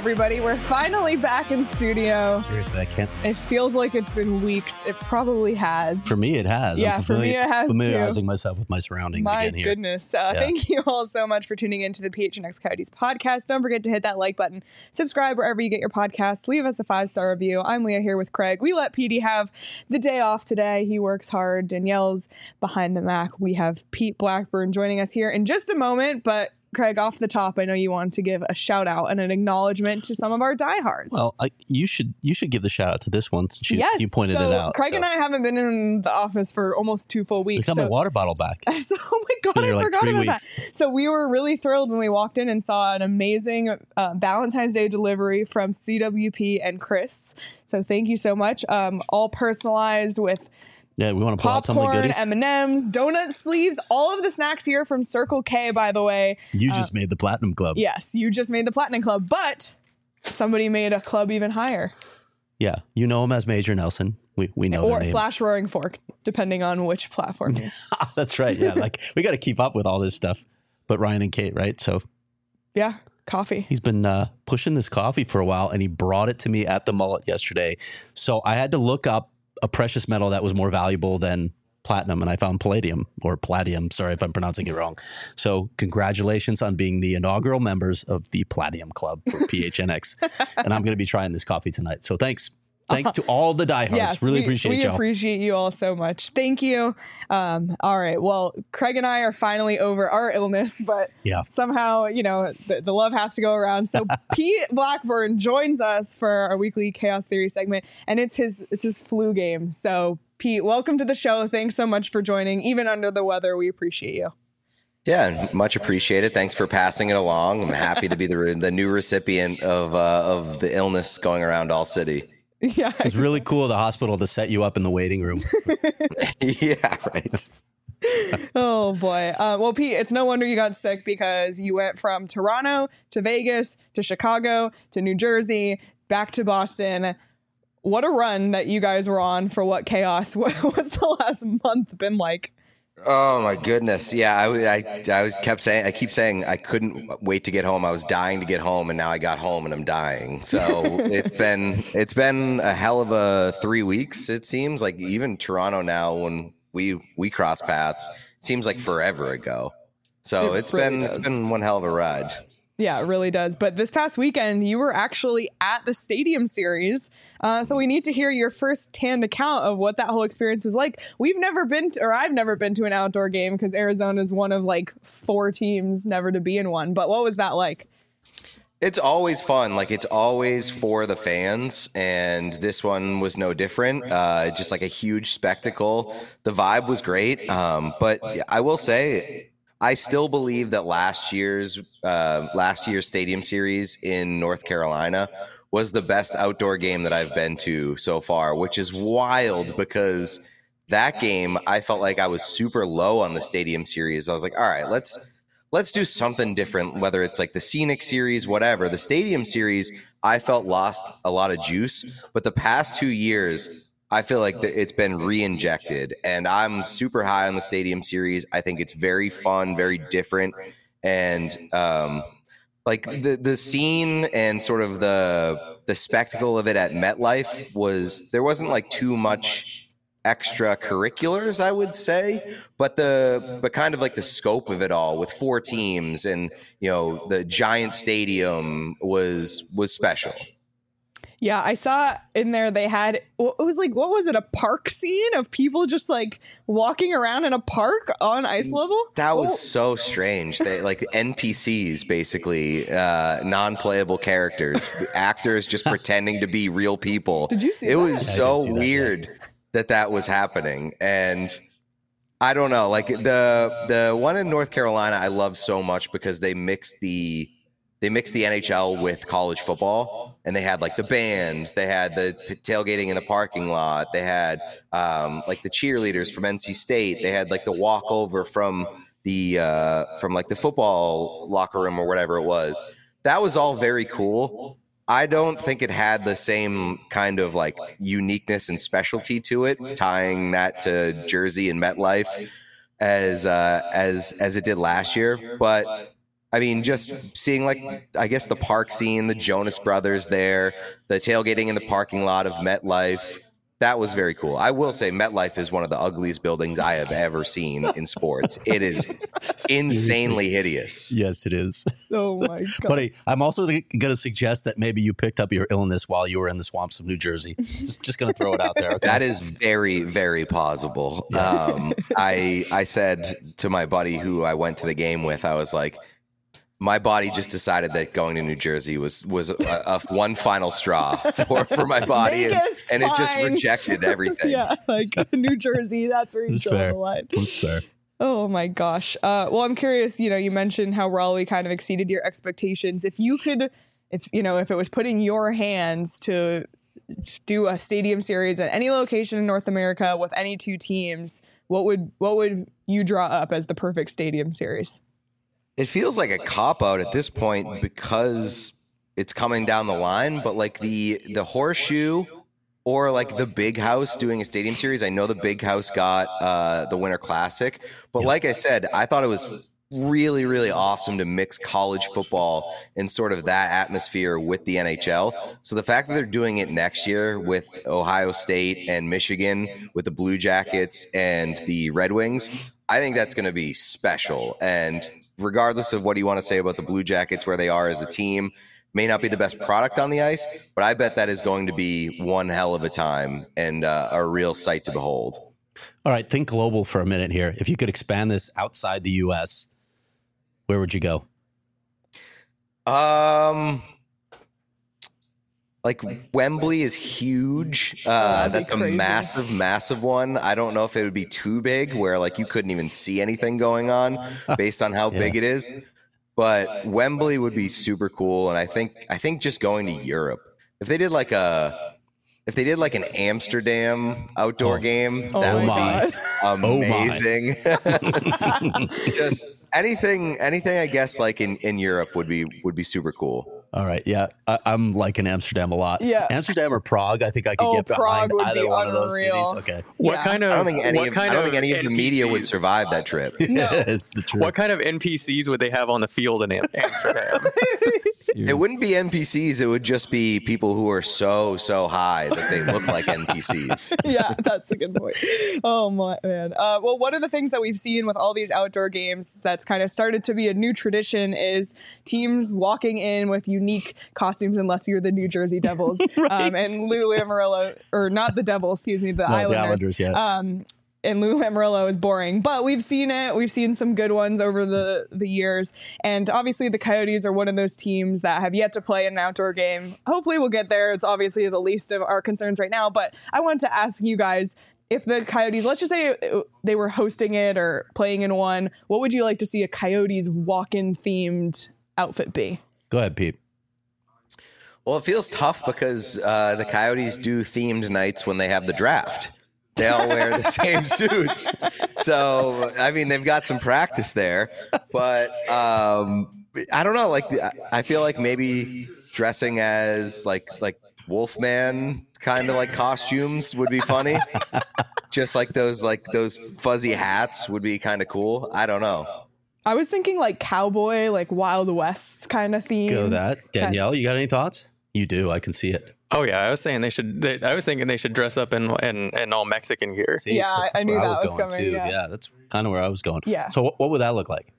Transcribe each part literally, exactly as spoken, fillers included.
everybody. We're finally back in studio. Seriously, I can't. It feels like it's been weeks. It probably has. For me, it has. Yeah, I'm for me, it has familiarizing too. myself with my surroundings My again here. goodness. Uh, Yeah. Thank you all so much for tuning into the P H N X Coyotes podcast. Don't forget to hit that like button. Subscribe wherever you get your podcasts. Leave us a five-star review. I'm Leah here with Craig. We let Petey have the day off today. He works hard. Danielle's behind the Mac. We have Pete Blackburn joining us here in just a moment, but Craig, off the top, I know you wanted to give a shout out and an acknowledgement to some of our diehards. Well, I, you should you should give the shout out to this one since you, yes, you pointed so it out. Craig so. and I haven't been in the office for almost two full I weeks. got so, my water bottle back. So, oh my God, Been I here like forgot three about weeks. that. So we were really thrilled when we walked in and saw an amazing uh, Valentine's Day delivery from C W P and Chris. So thank you so much. Um, all personalized with Yeah, we want to pull out some of the popcorn, goodies. M and M's, donut sleeves, all of the snacks here from Circle K, by the way. You just made the Platinum Club. Yes, you just made the Platinum Club, but somebody made a club even higher. Yeah, you know him as Major Nelson. We we know Or their names. slash Roaring Fork, depending on which platform you're. That's right. Yeah, like we got to keep up with all this stuff. But Ryan and Kate, right? So Yeah, coffee. he's been uh, pushing this coffee for a while, and he brought it to me at the Mullet yesterday. So I had to look up a precious metal that was more valuable than platinum, and I found palladium or palladium. Sorry if I'm pronouncing it wrong. So congratulations on being the inaugural members of the Palladium Club for P H N X. And I'm going to be trying this coffee tonight. So thanks. Thanks to all the diehards. Yes, really we, appreciate we y'all. appreciate you all so much. Thank you. Um, all right. Well, Craig and I are finally over our illness, but Yeah. somehow, you know, the, the love has to go around. So Pete Blackburn joins us for our weekly Chaos Theory segment, and it's his it's his flu game. So Pete, welcome to the show. Thanks so much for joining. Even under the weather, we appreciate you. Yeah, much appreciated. Thanks for passing it along. I'm happy to be the the new recipient of uh, of the illness going around all city. Yeah. It's really cool of the hospital to set you up in the waiting room. Yeah, right. Oh boy. Uh, well, Pete, it's no wonder you got sick because you went from Toronto to Vegas to Chicago to New Jersey back to Boston. What a run that you guys were on for what chaos. What, what's the last month been like? Oh my goodness. Yeah, I, I, I was kept saying, I keep saying I couldn't wait to get home. I was dying to get home, and now I got home and I'm dying. So it's been, it's been a hell of a three weeks. It seems like even Toronto now, when we, we cross paths, seems like forever ago. So It it's really been, does. it's been one hell of a ride. Yeah, it really does. But this past weekend, you were actually at the Stadium Series. Uh, so we need to hear your first-hand account of what that whole experience was like. We've never been to, or I've never been to an outdoor game because Arizona is one of like four teams never to be in one. But what was that like? It's always fun. Like, it's always for the fans, and this one was no different. Uh, just like a huge spectacle. The vibe was great. Um, but I will say, I still believe that last year's uh, last year's Stadium Series in North Carolina was the best outdoor game that I've been to so far, which is wild because that game, I felt like I was super low on the Stadium Series. I was like, all right, let's let's do something different, whether it's like the Scenic Series, whatever. The Stadium Series, I felt lost a lot of juice, but the past two years, I feel like that it's been re-injected, and I'm super high on the Stadium Series. I think it's very fun, very different, and um, like the the scene and sort of the the spectacle of it at MetLife was, there wasn't like too much extracurriculars, I would say, but the but kind of like the scope of it all with four teams and, you know, the giant stadium was was special. Yeah, I saw in there they had, it was like, what was it, a park scene of people just like walking around in a park on ice level? That was Oh. so strange. They like N P Cs, basically, uh, non-playable characters, actors just pretending to be real people. Did you see it that? was I so didn't see that, weird that that was happening. And I don't know, like the the one in North Carolina, I love so much because they mixed the they mixed the N H L with college football. And they had like the bands, they had the tailgating in the parking lot, they had um, like the cheerleaders from N C State, they had like the walkover from the uh, from like the football locker room or whatever it was. That was all very cool. I don't think it had the same kind of like uniqueness and specialty to it, tying that to Jersey and MetLife as uh, as as it did last year. But I mean, just seeing like, I guess the park scene, the Jonas Brothers there, the tailgating in the parking lot of MetLife. That was very cool. I will say MetLife is one of the ugliest buildings I have ever seen in sports. It is insanely hideous. Yes, it is. Oh my God. Buddy, I'm also going to suggest that maybe you picked up your illness while you were in the swamps of New Jersey. Just just going to throw it out there. Okay? That is very, very plausible. Yeah. Um, I I said to my buddy who I went to the game with, I was like, my body just decided that going to New Jersey was was a, a one final straw for, for my body, and, and it just rejected everything. Yeah, like New Jersey, that's where you That's draw fair. the line. That's fair. Oh my gosh. Uh, well, I'm curious. You know, you mentioned how Raleigh kind of exceeded your expectations. If you could, if you know, if it was put in your hands to do a stadium series at any location in North America with any two teams, what would what would you draw up as the perfect stadium series? It feels like a cop-out at this point because it's coming down the line, but like the the Horseshoe or like the Big House doing a stadium series. I know the Big House got uh, the Winter Classic, but like I said, I thought it was really, really awesome to mix college football and sort of that atmosphere with the N H L. So the fact that they're doing it next year with Ohio State and Michigan, with the Blue Jackets and the Red Wings, I think that's going to be special. And regardless of what you want to say about the Blue Jackets, where they are as a team, may not be the best product on the ice, but I bet that is going to be one hell of a time and uh, a real sight to behold. All right, think global for a minute here. If you could expand this outside the U S, where would you go? Um, like Wembley is huge. Uh, that's a massive, massive one. I don't know if it would be too big where like you couldn't even see anything going on based on how Yeah. big it is. But Wembley would be super cool. And I think I think just going to Europe, if they did like a if they did like an Amsterdam outdoor Oh. game, Oh that would my be amazing. Just anything anything I guess like in, in Europe would be would be super cool. All right, yeah, I, I'm liking Amsterdam a lot. Yeah. Amsterdam or Prague, I think I could Oh, get behind Prague would either be one of those unreal. cities. Okay. What Yeah. kind of? I don't think any what of, kind I don't think any of the media would N P Cs survive that trip. No. It's the truth. What kind of N P Cs would they have on the field in Am- Amsterdam? It wouldn't be N P Cs. It would just be people who are so, so high that they look like N P Cs. Yeah, that's a good point. Oh my man. Uh, well, one of the things that we've seen with all these outdoor games that's kind of started to be a new tradition is teams walking in with unique costumes, unless you're the New Jersey Devils. Right. um, and Lou Lamoriello, or not the Devils, excuse me, the No, the Islanders. Islanders, yeah. Um, and Lou Lamoriello is boring, but we've seen it. We've seen some good ones over the, the years. And obviously the Coyotes are one of those teams that have yet to play an outdoor game. Hopefully we'll get there. It's obviously the least of our concerns right now. But I wanted to ask you guys, if the Coyotes, let's just say they were hosting it or playing in one, what would you like to see a Coyotes walk-in themed outfit be? Go ahead, Pete. Well, it feels tough because uh, the Coyotes do themed nights when they have the draft. They all wear the same suits. So, I mean, they've got some practice there. But um, I don't know. Like, I feel like maybe dressing as like like Wolfman kind of like costumes would be funny. Just like those like those fuzzy hats would be kind of cool. I don't know. I was thinking like cowboy, like Wild West kind of theme. Go that. Danielle, you got any thoughts? You do. I can see it. Oh yeah, I was saying they should. They, I was thinking they should dress up in in, in all Mexican gear. See, Yeah, I- that's I knew where that was going coming, too. yeah. that's kind of where I was going. Yeah. So what, what would that look like?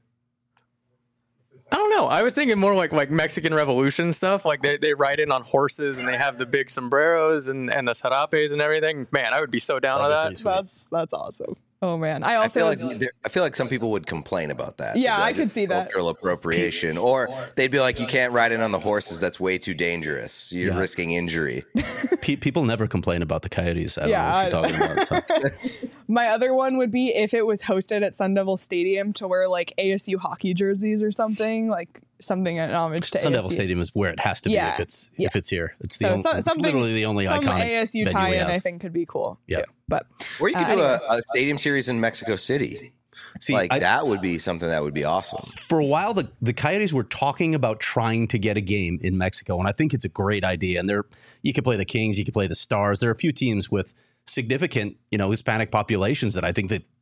I don't know. I was thinking more like like Mexican Revolution stuff. Like they, they ride in on horses and they have the big sombreros and, and the sarapes and everything. Man, I would be so down with That'd be that. pretty That's that's awesome. Oh man, I I also feel like there- I feel like some people would complain about that. Yeah, They'd be I like, could "It's see that." cultural appropriation, or they'd be like, "You can't ride in on the horses. That's way too dangerous. You're Yeah. risking injury." Pe- people never complain about the Coyotes. I don't Yeah, know what you're I- talking about. So. my other one would be if it was hosted at Sun Devil Stadium to wear like A S U hockey jerseys or something, like something in homage to Sun A S U. Devil Stadium is where it has to be Yeah, if it's yeah. if it's here. It's the So only, some- it's something, literally the only some iconic A S U venue we tie-in have. I think could be cool Yeah. too. But Or you could Uh, do anyway. a, a stadium series in Mexico City. See, like I- that would be something that would be awesome. for a while, the, the Coyotes were talking about trying to get a game in Mexico, and I think it's a great idea. And there, you could play the Kings, you could play the Stars. There are a few teams with significant, you know, Hispanic populations that I think that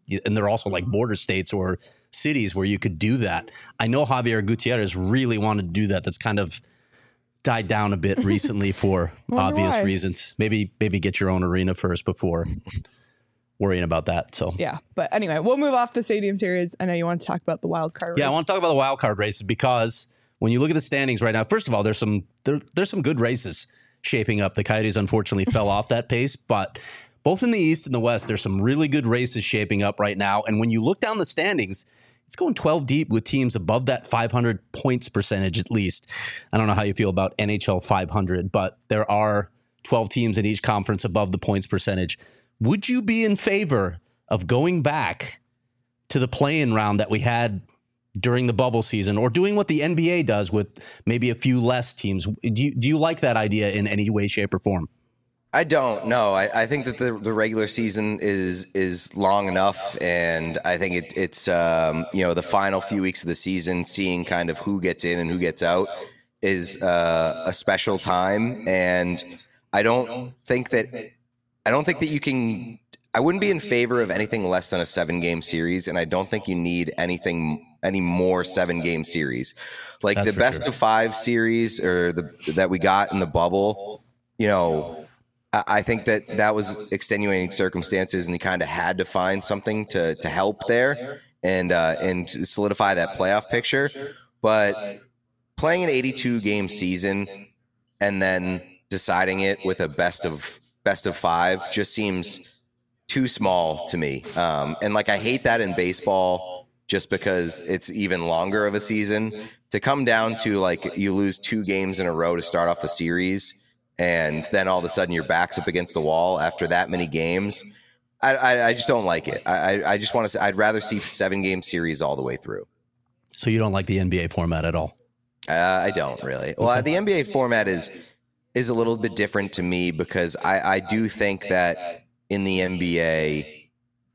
and they're also like border states or cities where you could do that. I know Javier Gutierrez really wanted to do that. That's kind of died down a bit recently for obvious why. reasons. Maybe maybe get your own arena first before worrying about that. So Yeah. But anyway, we'll move off the Stadium Series. I know you want to talk about the wild card race. yeah, I want to talk about the wild card races because when you look at the standings right now, first of all, there's some there, there's some good races shaping up. The Coyotes unfortunately fell off that pace, but both in the East and the West, there's some really good races shaping up right now. And when you look down the standings, it's going twelve deep with teams above that five hundred points percentage at least. I don't know how you feel about N H L five hundred, but there are twelve teams in each conference above the points percentage. Would you be in favor of going back to the play-in round that we had during the bubble season, or doing what the N B A does with maybe a few less teams? Do you, do you like that idea in any way, shape, or form? I don't know. I, I think that the, the regular season is is long enough, and I think it, it's um, you know the final few weeks of the season, seeing kind of who gets in and who gets out, is uh, a special time. And I don't think that I don't think that you can. I wouldn't be in favor of anything less than a seven game series, and I don't think you need anything any more seven game series, like That's the for best sure. of five series or the that we got in the bubble. You know. I think that that was extenuating circumstances, and he kind of had to find something to to help there and uh, and solidify that playoff picture. But playing an eighty-two game season and then deciding it with a best of best of five just seems too small to me. Um, and like I hate that in baseball, just because it's even longer of a season. To come down to like you lose two games in a row to start off a series, and then all of a sudden your back's up against the wall after that many games. I, I, I just don't like it. I, I just want to say I'd rather see seven game series all the way through. So you don't like the N B A format at all? Uh, I don't really. Well, the N B A format is is a little bit different to me because I, I do think that in the N B A,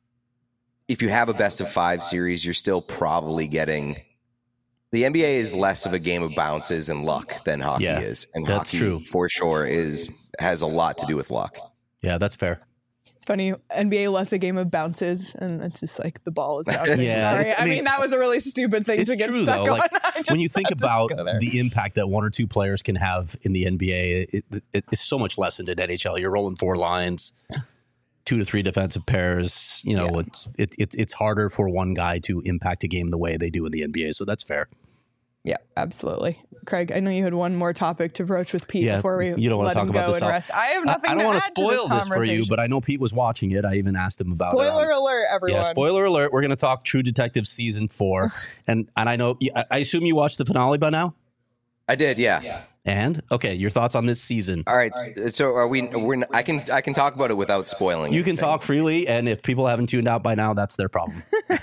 if you have a best of five series, you're still probably getting. The N B A is less of a game of bounces and luck than hockey Yeah, is, and that's hockey true. for sure is has a lot to do with luck. Yeah, that's fair. It's funny, N B A less a game of bounces, and it's just like the ball is bouncing. Yeah, Sorry. it's- I I mean, mean, that was a really stupid thing It's to get true stuck though. on. Like I just when you think had to about go there. the impact that one or two players can have in the N B A, it, it, it's so much less in N H L. You're rolling four lines, two to three defensive pairs. You know, Yeah. it's it, it's it's harder for one guy to impact a game the way they do in the N B A. So that's fair. Yeah, absolutely. Craig, I know you had one more topic to broach with Pete Yeah, before we you don't wanna let talk him about go this and all. rest. I have I, nothing I don't to want add to spoil to this, this for you, but I know Pete was watching it. I even asked him about it. Spoiler on- alert, everyone. Yeah, spoiler alert. We're going to talk True Detective season four, and and I know I I assume you watched the finale by now. I did, yeah. And okay, your thoughts on this season? All right. So are we? We're. I can. I can talk about it without spoiling. You can anything. talk freely, and if people haven't tuned out by now, that's their problem.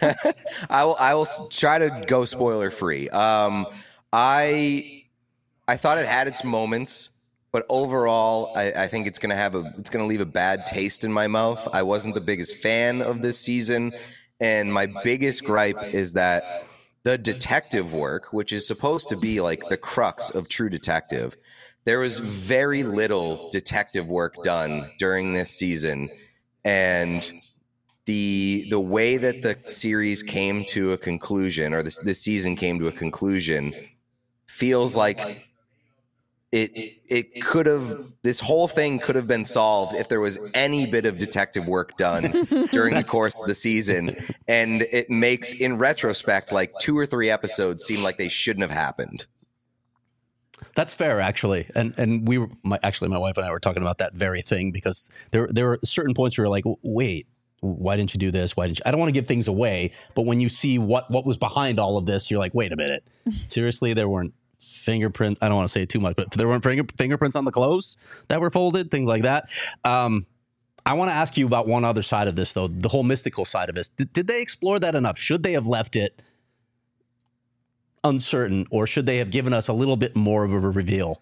I will. I will s- try to go spoiler free. Um, I. I thought it had its moments, but overall, I, I think it's gonna have a. It's gonna leave a bad taste in my mouth. I wasn't the biggest fan of this season, and my biggest gripe is that the detective work, which is supposed to be like the crux of True Detective, there was very little detective work done during this season, and the the way that the series came to a conclusion, or this this season came to a conclusion, feels like it it could have this whole thing could have been solved if there was any bit of detective work done during the course of the season, and it makes in retrospect like two or three episodes seem like they shouldn't have happened. That's fair, actually, and and we were my, actually my wife and I were talking about that very thing because there there were certain points where you're like, wait, why didn't you do this? Why didn't you? I don't want to give things away, but when you see what what was behind all of this, you're like, wait a minute, seriously, there weren't fingerprints. I don't want to say it too much, but there weren't finger, fingerprints on the clothes that were folded, things like that. Um, I want to ask you about one other side of this, though, the whole mystical side of this. Did, did they explore that enough? Should they have left it uncertain, or should they have given us a little bit more of a reveal?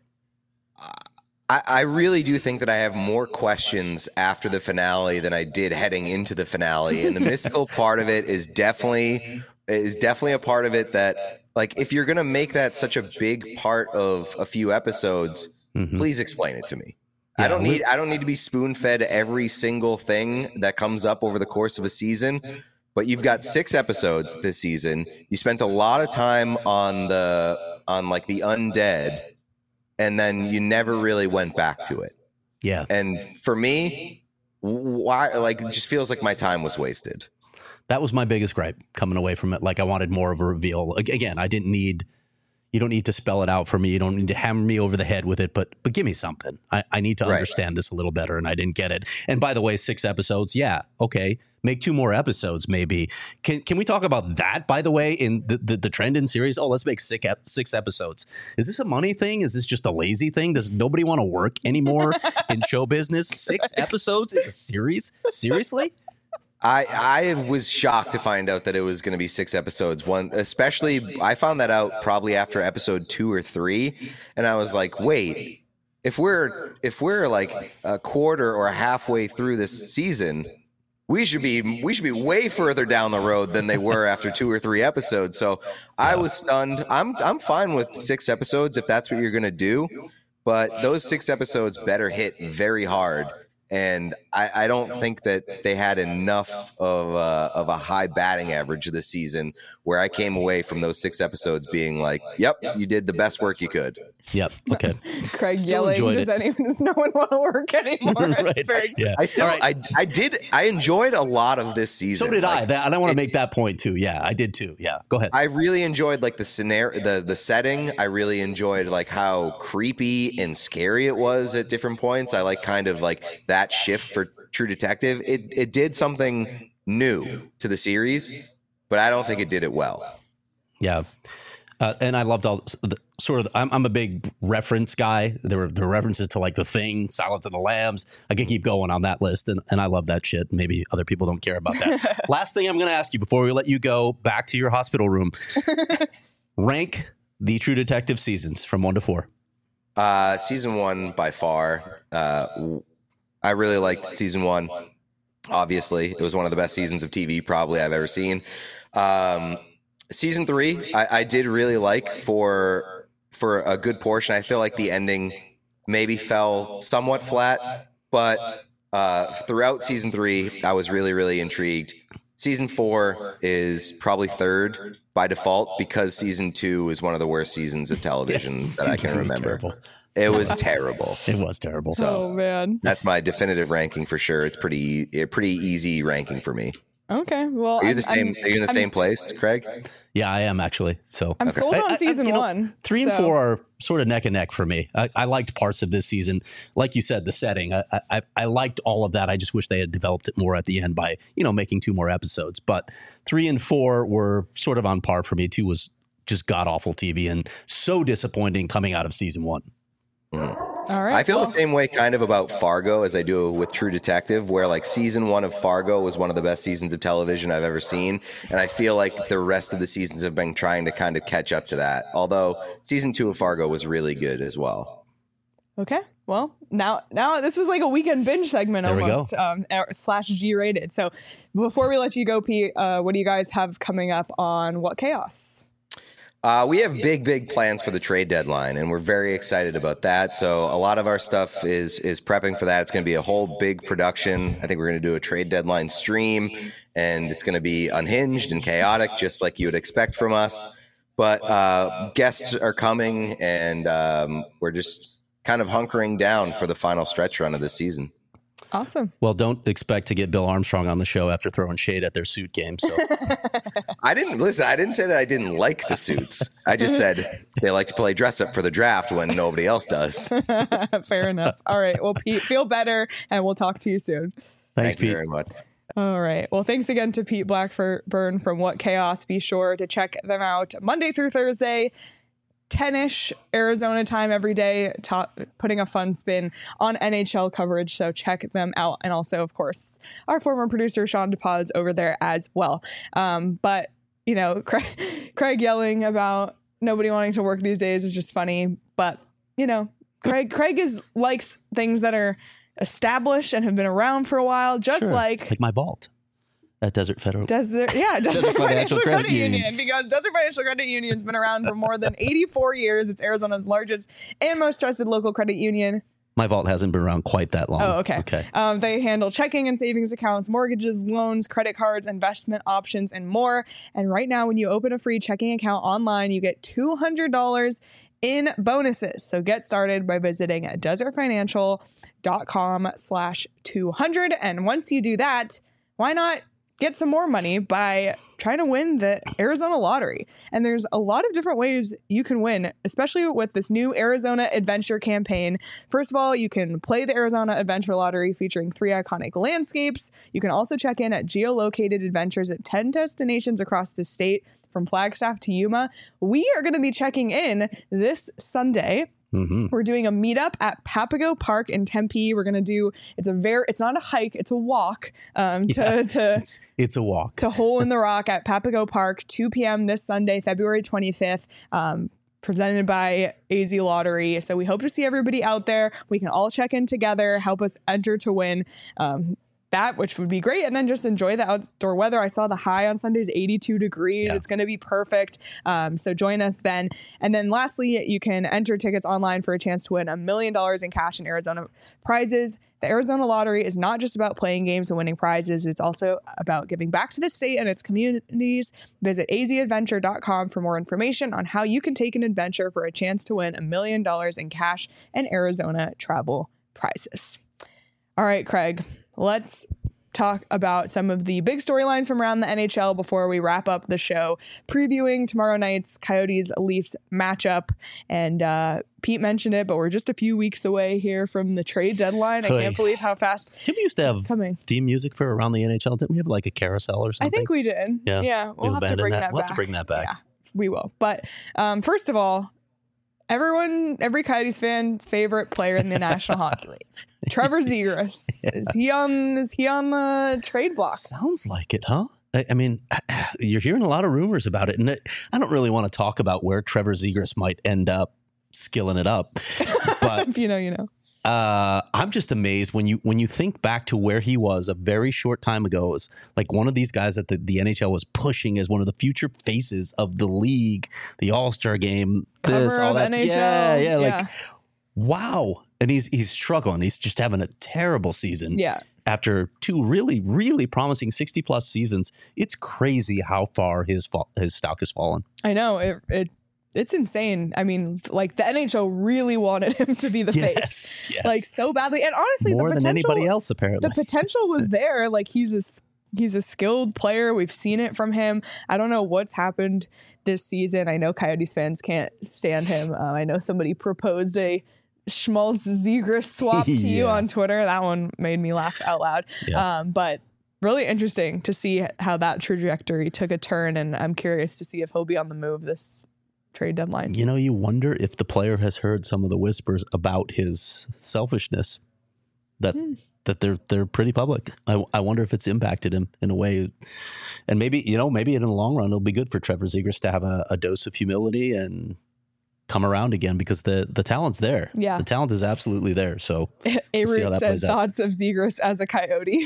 I, I really do think that I have more questions after the finale than I did heading into the finale, and the mystical part of it is definitely is definitely a part of it that. Like, if you're going to make that such a big part of a few episodes, Mhm. please explain it to me. Yeah, I don't we- need I don't need to be spoon-fed every single thing that comes up over the course of a season. but you've got six episodes this season. You spent a lot of time on the on like the undead, and then you never really went back to it. Yeah. And for me, why like it just feels like my time was wasted. That was my biggest gripe coming away from it. Like I wanted more of a reveal. Again, I didn't need, you don't need to spell it out for me. You don't need to hammer me over the head with it, but but give me something. I, I need to Right. understand this a little better, and I didn't get it. And by the way, six episodes, yeah, okay. Make two more episodes, maybe. Can can we talk about that, by the way, in the, the, the trend in series? Oh, let's make six, ep- six episodes. Is this a money thing? Is this just a lazy thing? Does nobody want to work anymore in show business? Six episodes is a series? Seriously? I I was shocked to find out that it was going to be six episodes. One, especially, I found that out probably after episode two or three, and I was like, wait, if we're if we're like a quarter or halfway through this season, we should be we should be way further down the road than they were after two or three episodes. So I was stunned. I'm I'm fine with six episodes if that's what you're going to do, but those six episodes better hit very hard. And I, I don't think that they had enough of a, of a high batting average this season where I came away from those six episodes being like, yep, you did the best work you could. Yep. Okay. Craig Still yelling, enjoyed does it. anyone, does no one want to work anymore? It's Right. very- Yeah. I still, All right. I, I did, I enjoyed a lot of this season. So did I. Like, That, and I want to it- make that point too. Yeah, I did too. Yeah. Go ahead. I really enjoyed like the scenario, the the setting. I really enjoyed like how creepy and scary it was at different points. I like kind of like that shift for True Detective. It it did something new to the series, but I don't think it did it well. Yeah. Uh, and I loved all the sort of, I'm, I'm a big reference guy. There were, there were references to like The Thing, Silence of the Lambs. I can keep going on that list. And, and I love that shit. Maybe other people don't care about that. Last thing I'm going to ask you before we let you go back to your hospital room, rank the True Detective seasons from one to four. Uh, season one by far. Uh, I really liked season one. Obviously, it was one of the best seasons of T V probably I've ever seen. Um, season three, I, I did really like for for a good portion. I feel like the ending maybe fell somewhat flat, but uh, throughout season three, I was really really intrigued. Season four is probably third by default because season two is one of the worst seasons of television Yes, that I season can two was remember. terrible. It was terrible. It was terrible. So- oh, man. That's my definitive ranking for sure. It's pretty a pretty easy ranking for me. Okay. Well, Are you I'm- the same? I'm- are you in the I'm- same place, Craig? Yeah, I am actually. So I'm sold I- on I- I- season you know, one. Three and so- four are sort of neck and neck for me. I, I liked parts of this season. Like you said, the setting. I, I I liked all of that. I just wish they had developed it more at the end by, you know, making two more episodes. But three and four were sort of on par for me. Two was just god awful T V and so disappointing coming out of season one. All right. I feel well, the same way kind of about Fargo as I do with True Detective, where like season one of Fargo was one of the best seasons of television I've ever seen. And I feel like the rest of the seasons have been trying to kind of catch up to that. Although season two of Fargo was really good as well. Okay. Well, now now this was like a weekend binge segment There we go. almost, um, uh, slash G rated. So before we let you go, Pete, uh, what do you guys have coming up on What Chaos? Uh, we have big, big plans for the trade deadline, and we're very excited about that. So a lot of our stuff is is prepping for that. It's going to be a whole big production. I think we're going to do a trade deadline stream, and it's going to be unhinged and chaotic, just like you would expect from us. But uh, guests are coming, and um, we're just kind of hunkering down for the final stretch run of this season. Awesome. Well, don't expect to get Bill Armstrong on the show after throwing shade at their suit game. So I didn't listen. I didn't say that I didn't like the suits. I just said they like to play dress up for the draft when nobody else does. Fair enough. All right. Well, Pete, feel better, and we'll talk to you soon. thanks, Thank you Pete. very much. All right. Well, thanks again to Pete Blackburn from What Chaos. Be sure to check them out Monday through Thursday, ten-ish Arizona time every day, ta- putting a fun spin on N H L coverage. So check them out. And also, of course, our former producer, Sean DePaz, over there as well. Um, but, you know, Craig, Craig yelling about nobody wanting to work these days is just funny. But, you know, Craig Craig is likes things that are established and have been around for a while, just Sure. like Like my vault at Desert Federal. Desert, yeah, Desert, Desert Financial, Credit, Union. Because Desert Financial Credit Union's been around for more than eighty-four years. It's Arizona's largest and most trusted local credit union. My vault hasn't been around quite that long. Oh, okay. Okay. Um, they handle checking and savings accounts, mortgages, loans, credit cards, investment options, and more. And right now, when you open a free checking account online, you get two hundred dollars in bonuses. So get started by visiting desertfinancial.com slash 200. And once you do that, why not get some more money by trying to win the Arizona lottery? And there's a lot of different ways you can win, especially with this new Arizona Adventure campaign. First of all, you can play the Arizona Adventure Lottery featuring three iconic landscapes. You can also check in at geolocated adventures at ten destinations across the state, from Flagstaff to Yuma. We are going to be checking in this Sunday. Mm-hmm. We're doing a meetup at Papago Park in Tempe. We're going to do, it's a very, it's not a hike, it's a walk um, to, yeah, to, it's, it's a walk to Hole in the Rock at Papago Park, two p.m. this Sunday, February twenty-fifth. Um, presented by A Z Lottery. So we hope to see everybody out there. We can all check in together, help us enter to win. Um, that, which would be great. And then just enjoy the outdoor weather. I saw the high on Sunday is eighty-two degrees. Yeah. It's going to be perfect. Um, so join us then. And then lastly, you can enter tickets online for a chance to win a million dollars in cash and Arizona prizes. The Arizona Lottery is not just about playing games and winning prizes. It's also about giving back to the state and its communities. Visit a z adventure dot com for more information on how you can take an adventure for a chance to win a million dollars in cash and Arizona travel prizes. All right, Craig. Let's talk about some of the big storylines from around the N H L before we wrap up the show, previewing tomorrow night's Coyotes-Leafs matchup. And uh, Pete mentioned it, but we're just a few weeks away here from the trade deadline. I Hey. can't believe how fast Didn't we used to have coming. theme music for around the N H L? Didn't we have like a carousel or something? I think we did. Yeah. Yeah, we'll We've have to abandoned bring that. that, We'll back. have to bring that back. Yeah, we will. But um, first of all, everyone, every Coyotes fan's favorite player in the National Hockey League, Trevor Zegras. Yeah. Is he on? Is he on the trade block? Sounds like it, huh? I, I mean, you're hearing a lot of rumors about it, and it, I don't really want to talk about where Trevor Zegras might end up skilling it up. But if you know, you know. Uh, I'm just amazed when you when you think back to where he was a very short time ago. It was like one of these guys that the, the N H L was pushing as one of the future faces of the league, the All-Star game, Cover this, all of that. N H L. Yeah, yeah, Yeah. like wow. And he's he's struggling. He's just having a terrible season. Yeah. After two really, really promising sixty plus seasons, it's crazy how far his fall, his stock has fallen. I know it. it It's insane. I mean, like the N H L really wanted him to be the yes, face, yes. like so badly. And honestly, more the than potential, anybody else, apparently. the potential was there. Like he's a he's a skilled player. We've seen it from him. I don't know what's happened this season. I know Coyotes fans can't stand him. Uh, I know somebody proposed a Schmaltz Zegras swap to yeah. you on Twitter. That one made me laugh out loud. Yeah. Um, but really interesting to see how that trajectory took a turn, and I'm curious to see if he'll be on the move this trade deadline. You know, you wonder if the player has heard some of the whispers about his selfishness that mm. that they're they're pretty public. I, I wonder if it's impacted him in a way, and maybe you know maybe in the long run it'll be good for Trevor Zegras to have a, a dose of humility and come around again, because the the talent's there. Yeah, the talent is absolutely there. So A we'll Root said thoughts of Zegras as a Coyote.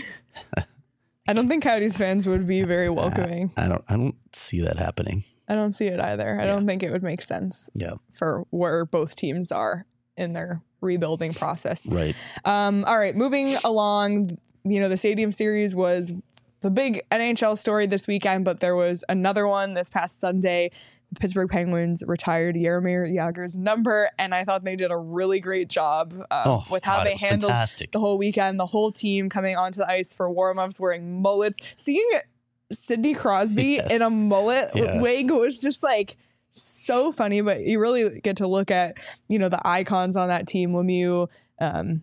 I don't think Coyotes fans would be very welcoming. I, I don't I don't see that happening. I don't see it either. I yeah. don't think it would make sense yeah. for where both teams are in their rebuilding process. Right. Um, all right, moving along, you know, the Stadium Series was the big N H L story this weekend, but there was another one this past Sunday. The Pittsburgh Penguins retired Jaromir Jagr's number, and I thought they did a really great job uh, oh, with how God, they handled fantastic. the whole weekend. The whole team coming onto the ice for warm-ups wearing mullets. Seeing Sidney Crosby yes. in a mullet yeah. wig was just like so funny, but you really get to look at, you know, the icons on that team, Lemieux, um,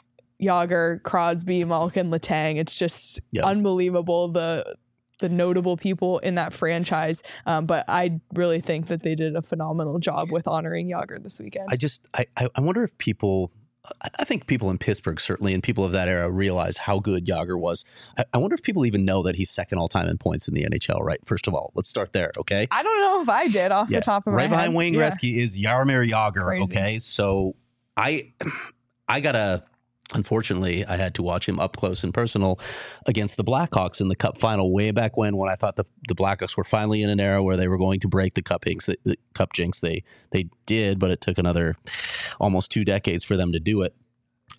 Jagr, Crosby, Malkin, Letang. It's just yep. unbelievable, the the notable people in that franchise. Um, but I really think that they did a phenomenal job with honoring Jagr this weekend. I just, I, I wonder if people, I think people in Pittsburgh certainly, and people of that era, realize how good Jagr was. I, I wonder if people even know that he's second all time in points in the N H L, right? First of all, let's start there, okay? I don't know if I did off yeah. the top of right my head. Right behind Wayne yeah. Gretzky is Jaromir Jagr, Crazy. okay? So I, I got to, unfortunately, I had to watch him up close and personal against the Blackhawks in the Cup final way back when, when I thought the, the Blackhawks were finally in an era where they were going to break the Cup jinx. The, the Cup jinx. They, they did, but it took another almost two decades for them to do it.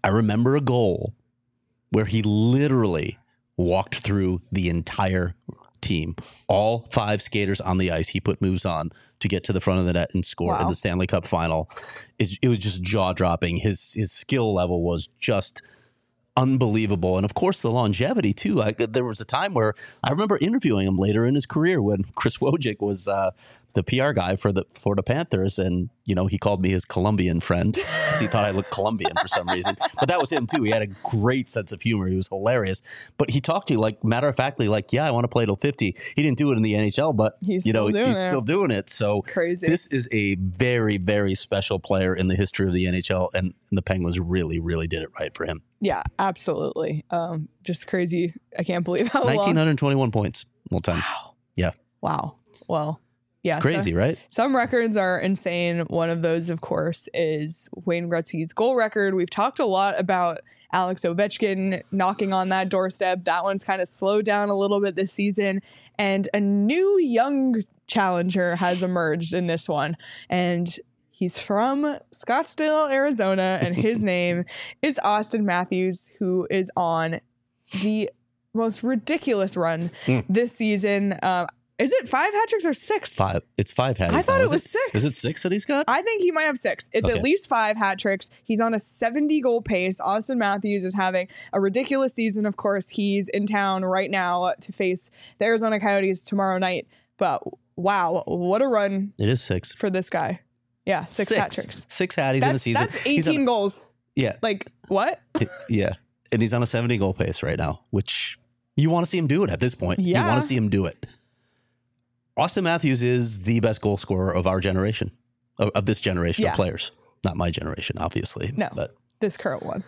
I remember a goal where he literally walked through the entire team, all five skaters on the ice. He put moves on to get to the front of the net and score Wow. in the Stanley Cup final. It, it was just jaw dropping. His his skill level was just unbelievable. And of course, the longevity too. I, there was a time where I remember interviewing him later in his career when Chris Wojcik was uh, the P R guy for the Florida Panthers. And, you know, he called me his Colombian friend because he thought I looked Colombian for some reason. But that was him too. He had a great sense of humor. He was hilarious. But he talked to you like matter of factly, like, yeah, I want to play till fifty. He didn't do it in the N H L, but, He's you know, still doing he's it. still doing it. So Crazy. this is a very, very special player in the history of the N H L. And the Penguins really, really did it right for him. Yeah, absolutely. Um, just crazy. I can't believe how long. nineteen twenty-one points all time. Wow. Yeah. Wow. Well, yeah. Crazy, so- right? Some records are insane. One of those, of course, is Wayne Gretzky's goal record. We've talked a lot about Alex Ovechkin knocking on that doorstep. That one's kind of slowed down a little bit this season. And a new young challenger has emerged in this one. And he's from Scottsdale, Arizona, and his name is Austin Matthews, who is on the most ridiculous run Mm. this season. Um, is it five hat tricks or six? Five. It's five hat. I thought now. it Is was six. Is it six that he's got? I think he might have six. It's Okay. at least five hat tricks. He's on a seventy goal pace. Austin Matthews is having a ridiculous season. Of course, he's in town right now to face the Arizona Coyotes tomorrow night. But wow, what a run It is six. for this guy. Yeah, six, hat tricks. Six hatties in a That's, season. that's He's on eighteen a- goals. Yeah. Like, what? Yeah. And he's on a seventy goal pace right now, which you want to see him do it at this point. You Yeah. want to see him do it. Austin Matthews is the best goal scorer of our generation, of, of this generation Yeah. of players. Not my generation, obviously. No. But This current one.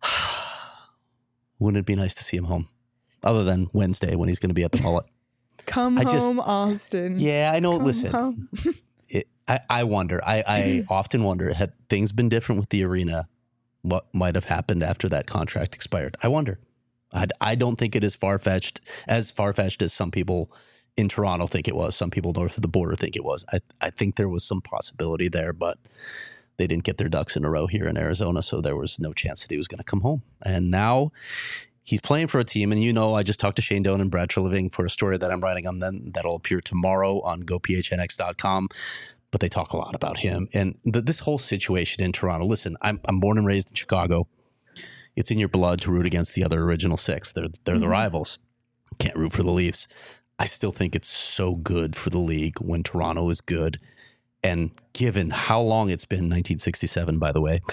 wouldn't it be nice to see him home? Other than Wednesday when he's going to be at the mullet. Come I just- home, Austin. Yeah, I know. Come Listen, home. it, I, I wonder. I, I often wonder, had things been different with the arena, what might have happened after that contract expired? I wonder. I, I don't think it is far-fetched, as far-fetched as some people in Toronto think it was. Some people north of the border think it was. I, I think there was some possibility there, but they didn't get their ducks in a row here in Arizona, so there was no chance that he was going to come home. And now he's playing for a team, and you know, I just talked to Shane Doan and Brad Treliving for a story that I'm writing on them that'll appear tomorrow on go p h n x dot com. But they talk a lot about him and the, this whole situation in Toronto. Listen, I'm I'm born and raised in Chicago. It's in your blood to root against the other original six. They're they're the rivals. Can't root for the Leafs. I still think it's so good for the league when Toronto is good. And given how long it's been, nineteen sixty-seven, by the way,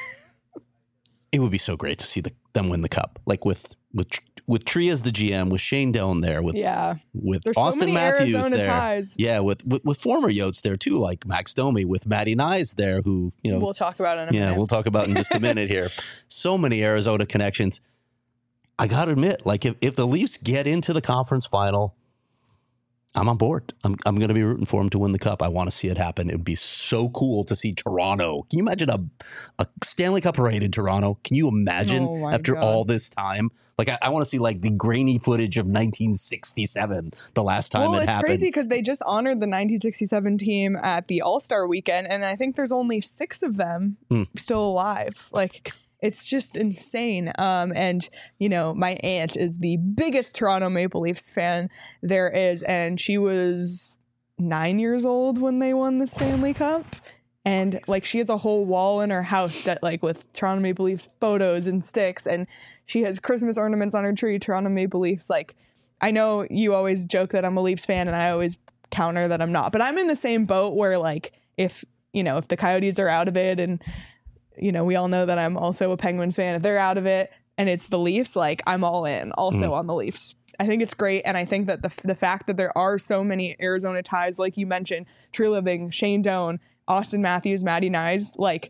it would be so great to see the, them win the cup. Like with with with Tree as the G M, with Shane Doan there, with Yeah. with There's so Austin many Matthews Arizona there. ties. Yeah, with, with with former Yotes there too, like Max Domi, with Matty Nyes there, who, you know, We'll talk about it in a yeah, minute. we'll talk about in just a minute here. So many Arizona connections. I got to admit, like if, if the Leafs get into the conference final, I'm on board. I'm I'm going to be rooting for them to win the cup. I want to see it happen. It would be so cool to see Toronto. Can you imagine a, a Stanley Cup parade in Toronto? Can you imagine Oh my after God. all this time? Like I, I want to see like the grainy footage of nineteen sixty-seven, the last time well, it it's happened. crazy because they just honored the nineteen sixty-seven team at the All-Star weekend, and I think there's only six of them Mm. still alive. Like, it's just insane. Um, and, you know, my aunt is the biggest Toronto Maple Leafs fan there is, and she was nine years old when they won the Stanley Cup. And like she has a whole wall in her house that like with Toronto Maple Leafs photos and sticks, and she has Christmas ornaments on her tree, Toronto Maple Leafs. Like, I know you always joke that I'm a Leafs fan, and I always counter that I'm not, but I'm in the same boat where like if you know if the Coyotes are out of it, and you know we all know that I'm also a Penguins fan, if they're out of it and it's the Leafs, like I'm all in also Mm. on the Leafs. I think it's great, and I think that the the fact that there are so many Arizona ties, like you mentioned, Treliving, Shane Doan, Austin Matthews, Matty Nyes, like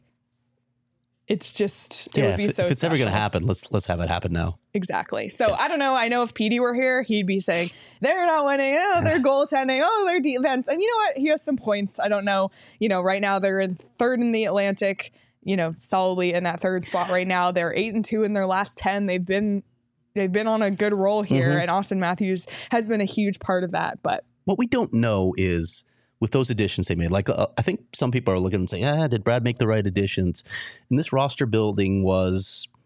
it's just it yeah, would be if, so if it's ever going to special. happen, let's let's have it happen now. Exactly. So I don't know. I know if Petey were here, he'd be saying they're not winning. Oh, they're goaltending. Oh, they're defense. And you know what? He has some points. I don't know. You know, right now they're in third in the Atlantic. You know, solidly in that third spot right now. They're eight and two in their last ten. They've been they've been on a good roll here, Mhm. and Austin Matthews has been a huge part of that. But What we don't know is with those additions they made, like uh, I think some people are looking and saying, ah, did Brad make the right additions? And this roster building was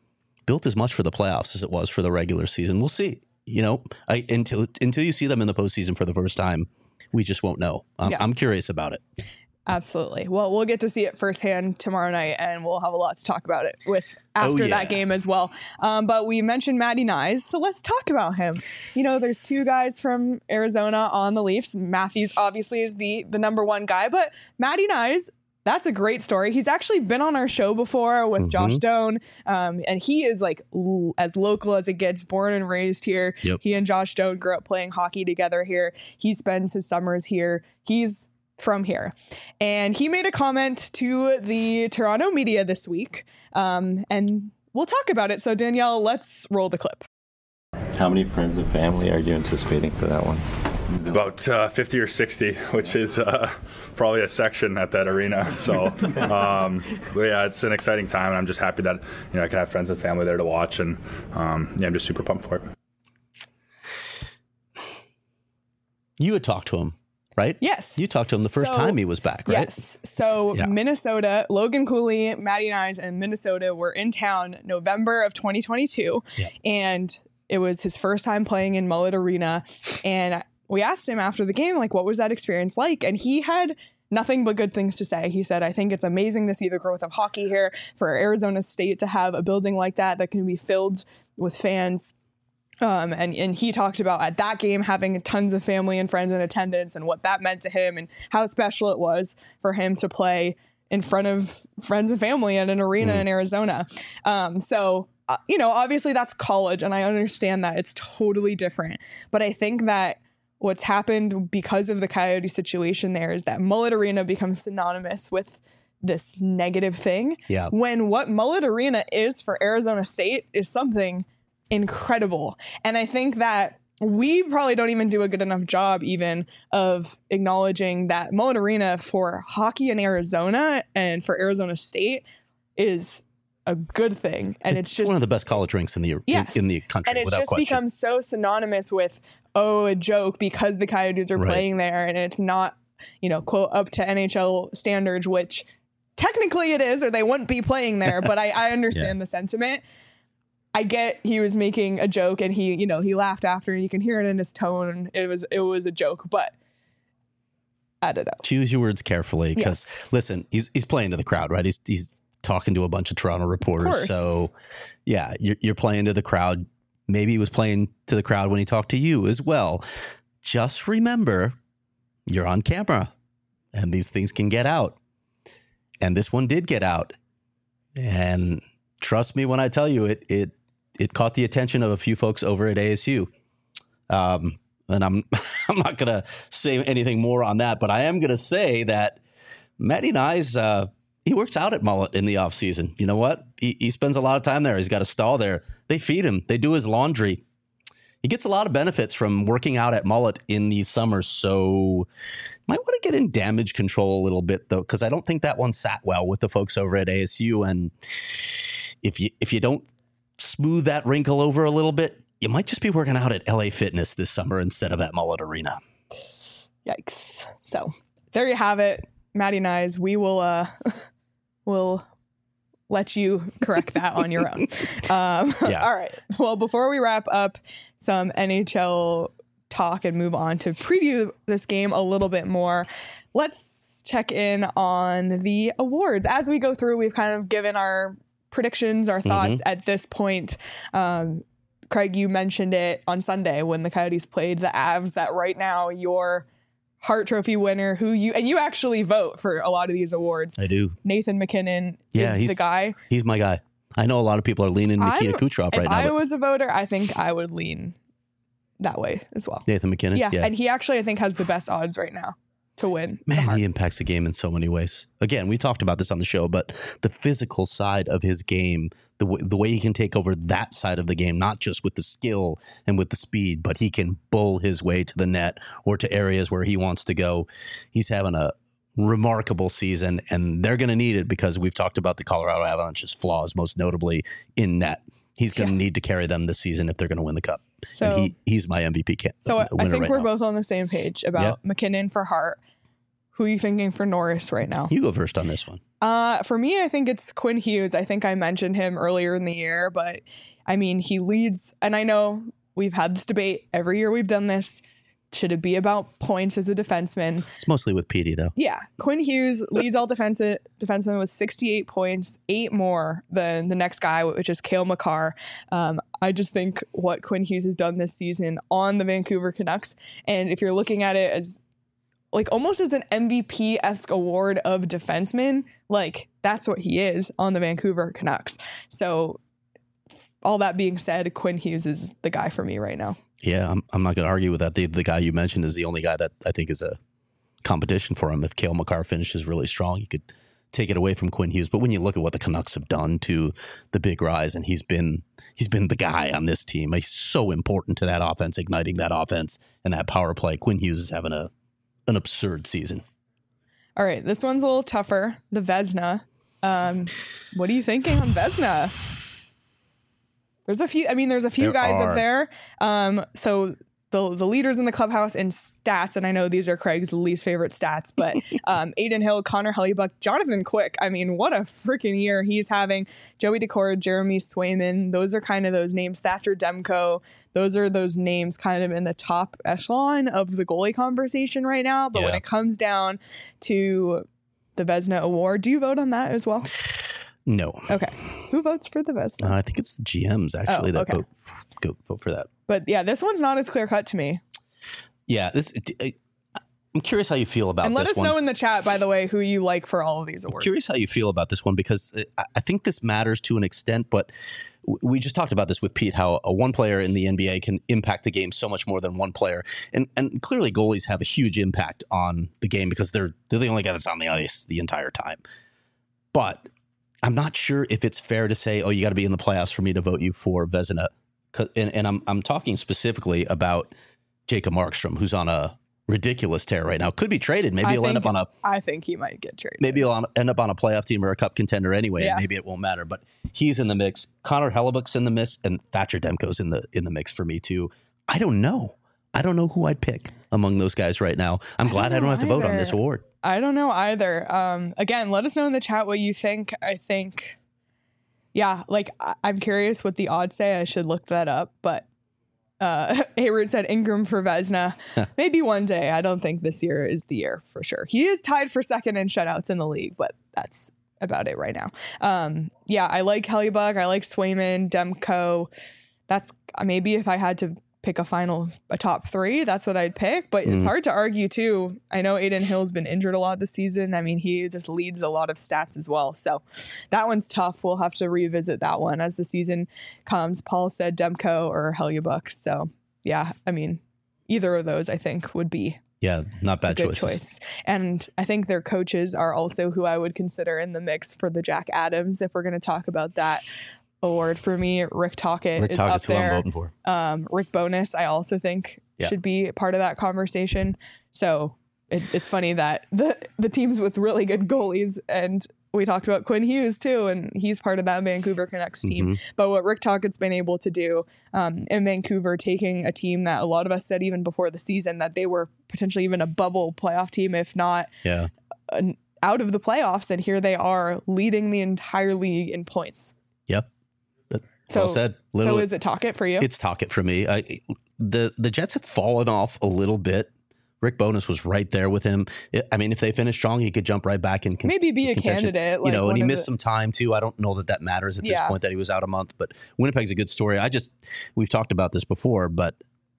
built as much for the playoffs as it was for the regular season. We'll see. You know, I, until until you see them in the postseason for the first time, we just won't know. Um, Yeah. I'm curious about it. Absolutely. Well, we'll get to see it firsthand tomorrow night, and we'll have a lot to talk about it with after Oh, yeah. that game as well. Um, but we mentioned Matty Nyes, so let's talk about him. You know, there's two guys from Arizona on the Leafs. Matthews obviously is the the number one guy, but Matty Nyes, that's a great story. He's actually been on our show before with Mhm. Josh Doan, um, and he is like l- as local as it gets, born and raised here. Yep. He and Josh Doan grew up playing hockey together here. He spends his summers here. He's from here. And he made a comment to the Toronto media this week, um, and we'll talk about it. So Danielle, let's roll the clip. How many friends and family are you anticipating for that one? About uh, fifty or sixty, which is uh, probably a section at that arena. So, um, but yeah, it's an exciting time, and I'm just happy that you know I can have friends and family there to watch, and um, yeah, I'm just super pumped for it. You had talked to him, right? Yes. You talked to him the first So- time he was back, right? Yes. So Yeah. Minnesota, Logan Cooley, Matty Nyes, and Minnesota were in town November of twenty twenty-two. Yeah. And it was his first time playing in Mullet Arena. And we asked him after the game, like, what was that experience like? And he had nothing but good things to say. He said, I think it's amazing to see the growth of hockey here, for Arizona State to have a building like that that can be filled with fans. Um, and, and he talked about at that game having tons of family and friends in attendance and what that meant to him and how special it was for him to play in front of friends and family at an arena Mm. in Arizona. Um, so, uh, you know, obviously that's college, and I understand that it's totally different. But I think that what's happened because of the Coyote situation there is that Mullet Arena becomes synonymous with this negative thing. Yeah. When what Mullet Arena is for Arizona State is something incredible. And I think that we probably don't even do a good enough job even of acknowledging that Mullet Arena for hockey in Arizona and for Arizona State is a good thing. And it's, It's just one of the best college rinks in the Yes. in, in the country, and it's without just question. become so synonymous with, oh, a joke because the Coyotes are Right. playing there, and it's not, you know, quote, up to N H L standards, which technically it is, or they wouldn't be playing there. But I, I understand Yeah. the sentiment. I get he was making a joke, and he, you know, he laughed after, and you can hear it in his tone. It was it was a joke, but I don't know. Choose your words carefully, because Yes. listen, he's he's playing to the crowd, right? He's he's talking to a bunch of Toronto reporters. course. So yeah, you're you're playing to the crowd. Maybe he was playing to the crowd when he talked to you as well. Just remember, you're on camera, and these things can get out. And this one did get out. And trust me when I tell you, it it it caught the attention of a few folks over at A S U. Um, and I'm I'm not gonna say anything more on that, but I am gonna say that Matty Nyes, uh, he works out at Mullet in the off season. You know what? He, he spends a lot of time there. He's got a stall there. They feed him. They do his laundry. He gets a lot of benefits from working out at Mullet in the summer. So might want to get in damage control a little bit though, because I don't think that one sat well with the folks over at A S U. And if you if you don't smooth that wrinkle over a little bit, you might just be working out at L A Fitness this summer instead of at Mullet Arena. Yikes. So there you have it, Matty Nyes. We will uh will let you correct that on your own. Um, Yeah. All right. Well, before we wrap up some N H L talk and move on to preview this game a little bit more, let's check in on the awards. As we go through, we've kind of given our predictions, our thoughts at this point. Um, Craig, you mentioned it on Sunday when the Coyotes played the Avs, that right now your Hart Trophy winner, who you and you actually vote for a lot of these awards, I do. Nathan McKinnon Yeah, is he's the guy. He's my guy. I know a lot of people are leaning Nikita I'm- Kucherov If right now. I but was a voter, I think I would lean that way as well. Nathan McKinnon. Yeah, Yeah. and he actually I think has the best odds right now to win. the Man, Hart. he impacts the game in so many ways. Again, we talked about this on the show, but the physical side of his game, the w- the way he can take over that side of the game, not just with the skill and with the speed, but he can bull his way to the net or to areas where he wants to go. He's having a remarkable season, and they're going to need it because we've talked about the Colorado Avalanche's flaws, most notably in net. He's going to Yeah. need to carry them this season if they're going to win the cup. So- and he, he's my M V P can- So I winner think right we're now. both on the same page about McKinnon for Hart. Who are you thinking for Norris right now? You go first on this one. Uh, for me, I think it's Quinn Hughes. I think I mentioned him earlier in the year, but I mean, he leads, and I know we've had this debate every year we've done this. Should it be about points as a defenseman? It's mostly with Petey, though. Yeah. Quinn Hughes leads all defensive defensemen with sixty-eight points, eight more than the next guy, which is Cale Makar. Um, I just think what Quinn Hughes has done this season on the Vancouver Canucks, and if you're looking at it as like almost as an M V P-esque award of defenseman, like that's what he is on the Vancouver Canucks. So all that being said, Quinn Hughes is the guy for me right now. Yeah, I'm, I'm not going to argue with that. The, the guy you mentioned is the only guy that I think is a competition for him. If Cale Makar finishes really strong, he could take it away from Quinn Hughes. But when you look at what the Canucks have done to the big rise, and he's been he's been the guy on this team. He's so important to that offense, igniting that offense and that power play. Quinn Hughes is having a an absurd season. All right, this one's a little tougher. The Vezina. Um, what are you thinking on Vezina? There's a few, I mean, there's a few There guys are. up there. Um, so the the leaders in the clubhouse in stats, and I know these are Craig's least favorite stats, but um, Aiden Hill, Connor Hellebuyck, Jonathan Quick. I mean, what a freaking year he's having. Joey Daccord, Jeremy Swayman. Those are kind of those names. Thatcher Demko. Those are those names kind of in the top echelon of the goalie conversation right now. But when Yeah. it comes down to the Vezina Award, do you vote on that as well? No. Okay. Who votes for the Vezina? Uh, I think it's the G Ms actually Oh, that okay. vote, go, vote for that. But yeah, this one's not as clear cut to me. Yeah, this. I, I'm curious how you feel about And let this us one. know in the chat, by the way, who you like for all of these I'm awards. curious how you feel about this one because I, I think this matters to an extent, but w- we just talked about this with Pete, how a one player in the N B A can impact the game so much more than one player. And and clearly goalies have a huge impact on the game because they're they're the only guy that's on the ice the entire time. But I'm not sure if it's fair to say, oh, you got to be in the playoffs for me to vote you for Vezina. 'Cause- And, and I'm I'm talking specifically about Jacob Markstrom, who's on a ridiculous tear right now. Could be traded. Maybe I he'll end think- up on a I think he might get traded. maybe he'll end up on a playoff team or a cup contender anyway. Yeah. And maybe it won't matter. But he's in the mix. Connor Hellebuck's in the mix, and Thatcher Demko's in the in the mix for me too. I don't know. I don't know who I'd pick among those guys right now. I'm glad I don't don't have to vote on either. this award. I don't know either. Um, again, let us know in the chat what you think. I think, yeah, like I- I'm curious what the odds say. I should look that up. But uh, Hayward said Ingram for Vezina. Maybe one day. I don't think this year is the year for sure. He is tied for second in shutouts in the league, but that's about it right now. Um, yeah, I like Hellebuyck. I like Swayman, Demko. That's maybe if I had to pick a final, a top three, that's what I'd pick. But it's Mm. hard to argue too. I know Aiden Hill's been injured a lot this season. I mean, he just leads a lot of stats as well. So that one's tough. We'll have to revisit that one as the season comes. Paul said Demko or Hellebuyck. So yeah, I mean, either of those I think would be Yeah, not a bad good choices. choice. And I think their coaches are also who I would consider in the mix for the Jack Adams, if we're going to talk about that award. For me, Rick Tocchet Rick is Tockett's up who I'm there. voting for. Um, Rick Bowness, I also think Yeah. should be part of that conversation. So it, it's funny that the the teams with really good goalies, and we talked about Quinn Hughes too, and he's part of that Vancouver Canucks team. Mhm. But what Rick Tockett's been able to do um, in Vancouver, taking a team that a lot of us said even before the season that they were potentially even a bubble playoff team, if not Yeah. an, out of the playoffs, and here they are leading the entire league in points. Yep. That- So, well said. so Literally, is it Tocchet for you? it's Tocchet for me. I, the the Jets have fallen off a little bit. Rick Bowness was right there with him. I I mean, if they finish strong, he could jump right back and con- Maybe be a contention. candidate. You like know, one and he of missed the- some time too. I don't know that that matters at this Yeah. point that he was out a month, but Winnipeg's a good story. I just, we've talked about this before, but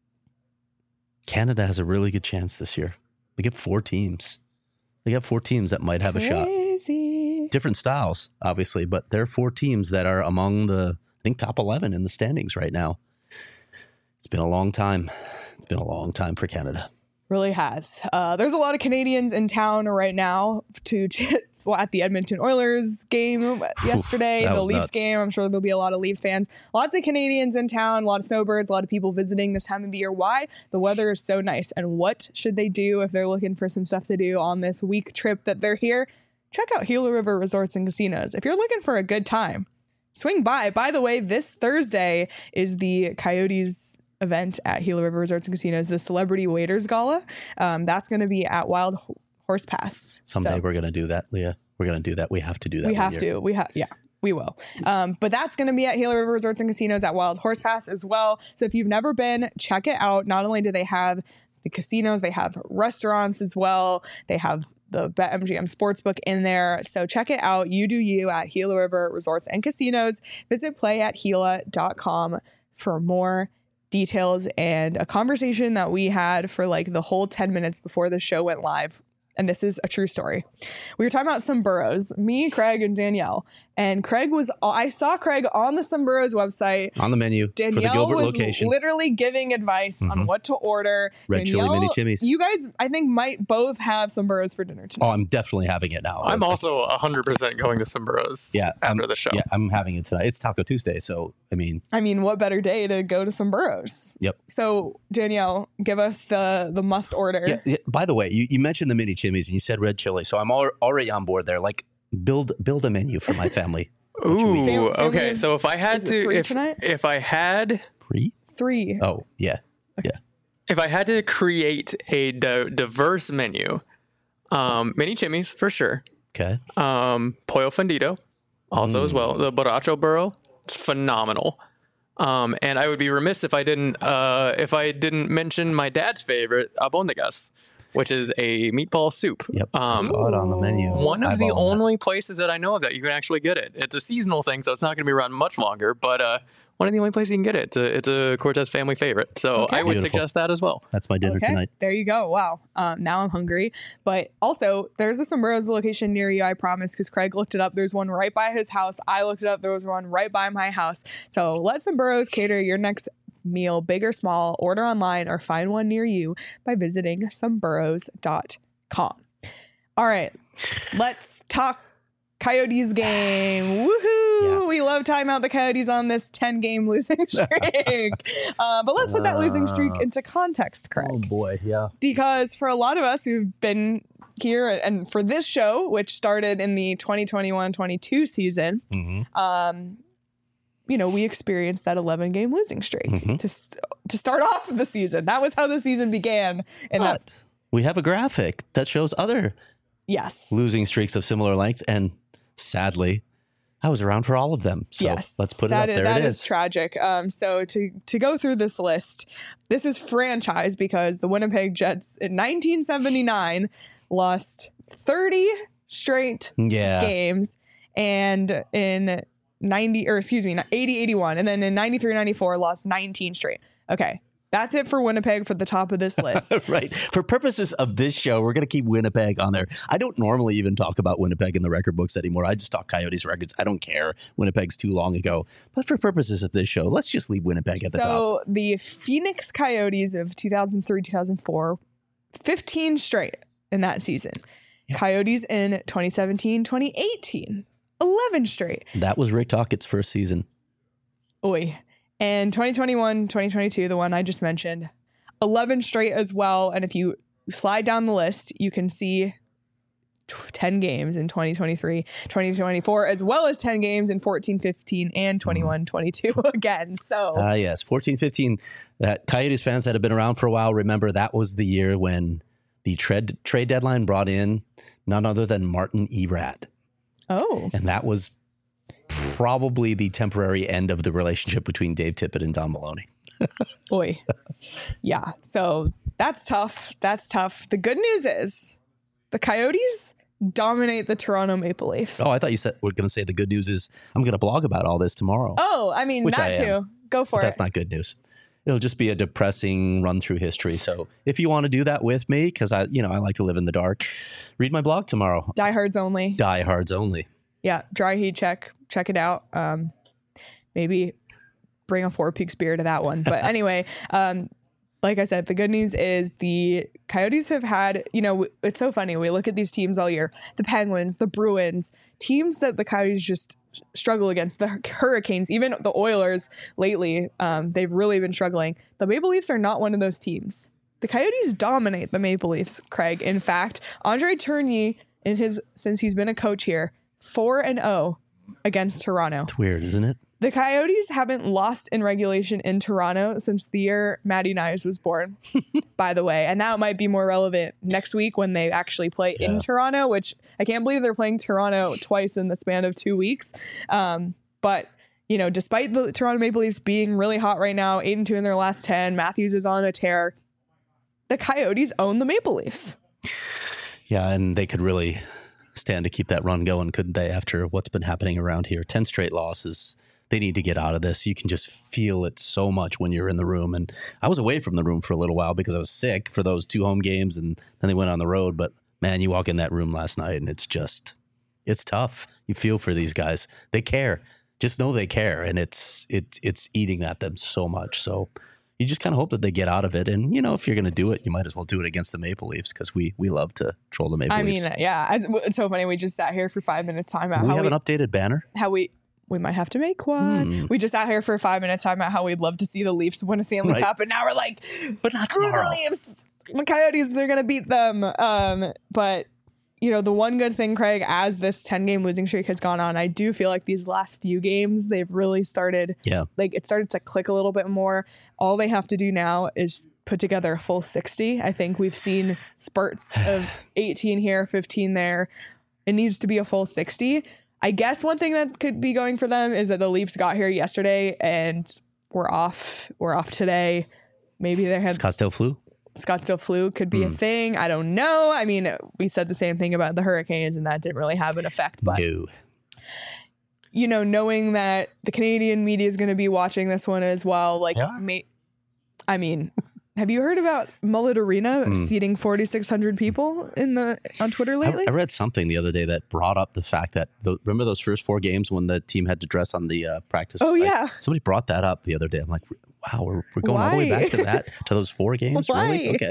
Canada has a really good chance this year. They get four teams. They got four teams that might have a shot. Crazy. Different styles, obviously, but there are four teams that are among the, I think, top eleven in the standings right now. It's been a long time. It's been a long time for Canada. Really has. Uh, there's a lot of Canadians in town right now to well, at the Edmonton Oilers game yesterday, that the was Leafs nuts. game. I'm sure there'll be a lot of Leafs fans. Lots of Canadians in town, a lot of snowbirds, a lot of people visiting this time of year. Why? The weather is so nice. And what should they do if they're looking for some stuff to do on this week trip that they're here? Check out Gila River Resorts and Casinos. If you're looking for a good time, swing by. By the way, this Thursday is the Coyotes event at Gila River Resorts and Casinos, the Celebrity Waiters Gala. Um, that's going to be at Wild Ho- Horse Pass. Someday So we're going to do that, Leah. We're going to do that. We have to do that. We one have year. to. We have, yeah. We will. Um, but that's going to be at Gila River Resorts and Casinos at Wild Horse Pass as well. So if you've never been, check it out. Not only do they have the casinos, they have restaurants as well. They have the BetMGM Sportsbook in there. So check it out. You do you at Gila River Resorts and Casinos. Visit play at gila dot com for more details and a conversation that we had for like the whole ten minutes before the show went live. And this is a true story. We were talking about Someburros, me, Craig, and Danielle. And Craig was, I saw Craig on the Someburros website. On the menu Danielle for the Gilbert was location. literally giving advice mm-hmm. on what to order. Red Danielle, chili mini chimneys. You guys, I think, might both have Someburros for dinner tonight. Oh, I'm definitely having it now. I'm also one hundred percent going to Someburros yeah, after I'm, the show. Yeah, I'm having it tonight. It's Taco Tuesday, so, I mean. I mean, what better day to go to Someburros? Yep. So, Danielle, give us the, the must order. Yeah, yeah, by the way, you, you mentioned the mini chimneys and you said red chili, so I'm al- already on board there. Like, build build a menu for my family. Ooh, Family- okay. So if I had Is it to, three if, tonight? if I had, Three? Three. Oh, yeah. Yeah. if I had to create a di- diverse menu, um, mini chimneys for sure. Okay. Um, pollo fundido, also mm. as well. The borracho burro, it's phenomenal. Um, and I would be remiss if I didn't, uh, if I didn't mention my dad's favorite, albondigas, which is a meatball soup. Yep. I Um, saw it on the menu. One of the Eyeballing that. only places that I know of that you can actually get it. It's a seasonal thing, so it's not going to be around much longer. But uh, one of the only places you can get it. It's a, it's a Cortez family favorite. So Okay. I would Beautiful. suggest that as well. That's my dinner Okay, tonight. there you go. Wow. Um, now I'm hungry. But also, there's a Someburros location near you, I promise, because Craig looked it up. There's one right by his house. I looked it up. There was one right by my house. So let Someburros cater your next meal, big or small. Order online or find one near you by visiting someburros dot com. All right, let's talk Coyotes game. Woohoo! Yeah. We love time out the Coyotes on this ten game losing streak. uh, but let's put that losing streak into context, Craig. Oh, boy. Yeah. Because for a lot of us who've been here and for this show, which started in the twenty twenty-one twenty-two season, Mm-hmm. um, you know, we experienced that eleven game losing streak Mm-hmm. to st- to start off the season. That was how the season began. And that, But we have a graphic that shows other yes, losing streaks of similar lengths. And sadly, I was around for all of them. So yes, let's put it that up. is- There that it is is. tragic. Um, so to to go through this list, this is franchise because the Winnipeg Jets in nineteen seventy-nine lost thirty straight Yeah. games, and in ninety or excuse me, eighty eighty-one, and then in ninety-three ninety-four lost nineteen straight. Okay. That's it for Winnipeg for the top of this list. Right. For purposes of this show, we're going to keep Winnipeg on there. I don't normally even talk about Winnipeg in the record books anymore. I just talk Coyotes records. I don't care. Winnipeg's too long ago. But for purposes of this show, let's just leave Winnipeg at the top. So the Phoenix Coyotes of two thousand three, two thousand four, fifteen straight in that season. Yeah. Coyotes in twenty seventeen, twenty eighteen, eleven straight. That was Rick Tockett's first season. Oy. And twenty twenty-one, twenty twenty-two, the one I just mentioned, eleven straight as well. And if you slide down the list, you can see ten games in twenty twenty-three, twenty twenty-four, as well as ten games in fourteen, fifteen, and twenty-one, twenty-two again. So, Ah, yes. fourteen fifteen. That Coyotes fans that have been around for a while, remember that was the year when the trade, trade deadline brought in none other than Martin Erat. oh, And that was probably the temporary end of the relationship between Dave Tippett and Don Maloney. boy. Yeah. So that's tough. That's tough. The good news is the Coyotes dominate the Toronto Maple Leafs. Oh, I thought you said we're going to say the good news is I'm going to blog about all this tomorrow. Oh, I mean, Which that I too. am. Go for But it. that's not good news. It'll just be a depressing run through history. So if you want to do that with me, because I, you know, I like to live in the dark, read my blog tomorrow. Diehards only. Diehards only. Yeah. Dry heat check. Check it out. Um, maybe bring a Four Peaks beer to that one. But anyway, um, like I said, the good news is the Coyotes have had, you know, it's so funny. We look at these teams all year, the Penguins, the Bruins, teams that the Coyotes just struggle against, the Hurricanes, even the Oilers lately. Um, they've really been struggling. The Maple Leafs are not one of those teams. The Coyotes dominate the Maple Leafs, Craig. In fact, Andre Tourigny, in his since he's been a coach here, four and oh against Toronto. It's weird, isn't it? The Coyotes haven't lost in regulation in Toronto since the year Matty Knies was born, by the way. And that might be more relevant next week when they actually play yeah. in Toronto, which I can't believe they're playing Toronto twice in the span of two weeks. Um, but, you know, despite the Toronto Maple Leafs being really hot right now, eight and two in their last ten, Matthews is on a tear. The Coyotes own the Maple Leafs. Yeah, and they could really stand to keep that run going, couldn't they, after what's been happening around here? ten straight losses. They need to get out of this. You can just feel it so much when you're in the room. And I was away from the room for a little while because I was sick for those two home games, and then they went on the road. But, man, you walk in that room last night, and it's just, it's tough. You feel for these guys. They care. Just know they care, and it's it's it's eating at them so much. So you just kind of hope that they get out of it. And, you know, if you're going to do it, you might as well do it against the Maple Leafs because we we love to troll the Maple I Leafs. I mean, yeah, as, it's so funny. We just sat here for five minutes talking about we how have we, an updated banner. How we... We might have to make one. Hmm. We just sat here for five minutes talking about how we'd love to see the Leafs win a Stanley Right. Cup, and now we're like, But not screw tomorrow. the Leafs. The Coyotes are going to beat them. Um, but, you know, the one good thing, Craig, as this ten-game losing streak has gone on, I do feel like these last few games, they've really started, Yeah. like, it started to click a little bit more. All they have to do now is put together a full sixty. I think we've seen spurts of eighteen here, fifteen there. It needs to be a full sixty. I guess one thing that could be going for them is that the Leafs got here yesterday and we're off. We're off today. Maybe they had Scottsdale flu. Scottsdale flu could be Mm. a thing. I don't know. I mean, we said the same thing about the Hurricanes and that didn't really have an effect. But, No. you know, knowing that the Canadian media is going to be watching this one as well, like, Yeah. may, I mean... Have you heard about Mullet Arena Mm. seating forty-six hundred people in the on Twitter I, lately? I read something the other day that brought up the fact that the, remember those first four games when the team had to dress on the uh, practice Oh, ice? yeah. Somebody brought that up the other day. I'm like, wow, we're, we're going all the way Why? back to that, to those four games? Why? Really? Okay.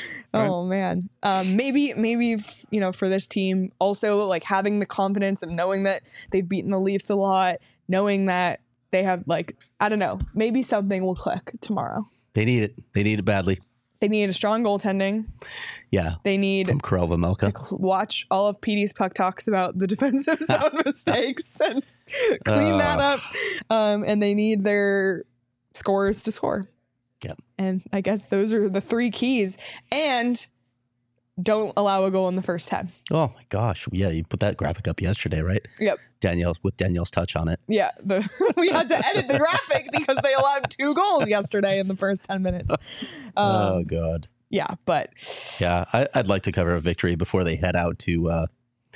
Oh man. Um, maybe, maybe, you know, for this team also like having the confidence of knowing that they've beaten the Leafs a lot, knowing that they have like, I don't know, maybe something will click tomorrow. They need it. They need it badly. They need a strong goaltending. Yeah. They need From Karel Vejmelka. to cl- watch all of P D's puck talks about the defensive zone mistakes and clean Uh. that up. Um, and they need their scorers to score. Yep. And I guess those are the three keys. And don't allow a goal in the first ten. Oh my gosh. Yeah, you put that graphic up yesterday, right? Yep. Danielle with Danielle's touch on it. Yeah. The, we had to edit the graphic because they allowed two goals yesterday in the first ten minutes. Um, oh God. Yeah. But Yeah, I, I'd like to cover a victory before they head out to uh,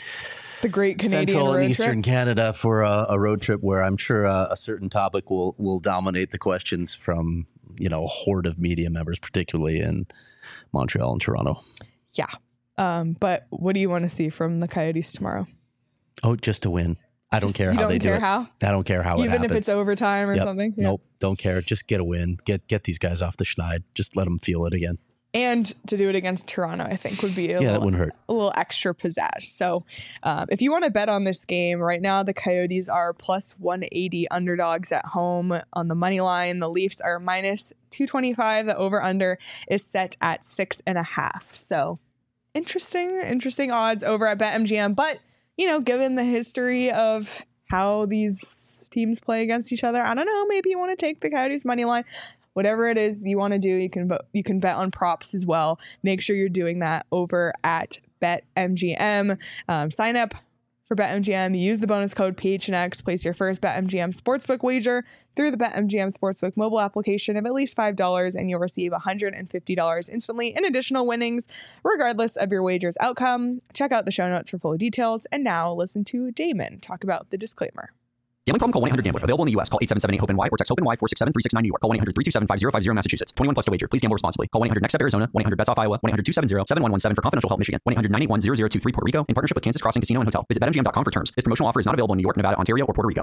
the great Canadian Central road and Eastern trip. Canada for a, a road trip where I'm sure uh, a certain topic will will dominate the questions from, you know, a horde of media members, particularly in Montreal and Toronto. Yeah. Um, but what do you want to see from the Coyotes tomorrow? Oh, just to win. I don't Just- care you how don't they care do it. how? I don't care how it Even happens. if it's overtime or Yep. something? Yeah. Nope, don't care. Just get a win. Get get these guys off the schneid. Just let them feel it again. And to do it against Toronto, I think would be a, Yeah, little, that wouldn't hurt. a little extra pizzazz. So um, if you want to bet on this game, right now the Coyotes are plus one eighty underdogs at home on the money line. The Leafs are minus two twenty-five. The over-under is set at six and a half. So interesting, interesting odds over at BetMGM. But, you know, given the history of how these teams play against each other, I don't know, maybe you want to take the Coyotes money line. Whatever it is you want to do, you can vote, you can bet on props as well. Make sure you're doing that over at BetMGM. Um, sign up for BetMGM. Use the bonus code P H N X. Place your first BetMGM sportsbook wager through the BetMGM sportsbook mobile application of at least five dollars, and you'll receive one hundred fifty dollars instantly in additional winnings, regardless of your wager's outcome. Check out the show notes for full details. And now listen to Damon talk about the disclaimer. Gambling problem? Call one eight hundred gambler. Available in the U S. Call eight seven seven eight hope N Y or text HOPE-NY four six seven three six nine New York. Call one eight hundred three two seven five zero five zero Massachusetts. twenty-one plus to wager. Please gamble responsibly. Call one eight hundred next step Arizona. one eight hundred bets off Iowa. one eight hundred two seven zero seven one one seven for confidential help Michigan. one eight hundred nine eight one zero zero two three Puerto Rico in partnership with Kansas Crossing Casino and Hotel. Visit bet M G M dot com for terms. This promotional offer is not available in New York, Nevada, Ontario, or Puerto Rico.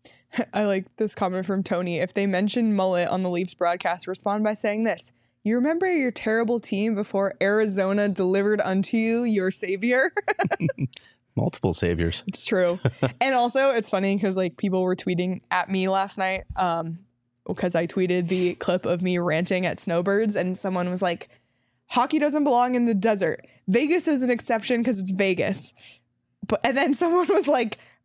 I like this comment from Tony. If they mention mullet on the Leafs broadcast, respond by saying this. You remember your terrible team before Arizona delivered unto you your savior? Multiple saviors. It's true. And also it's funny because like people were tweeting at me last night um, because I tweeted the clip of me ranting at snowbirds and someone was like, hockey doesn't belong in the desert. Vegas is an exception because it's Vegas. But and then someone was like,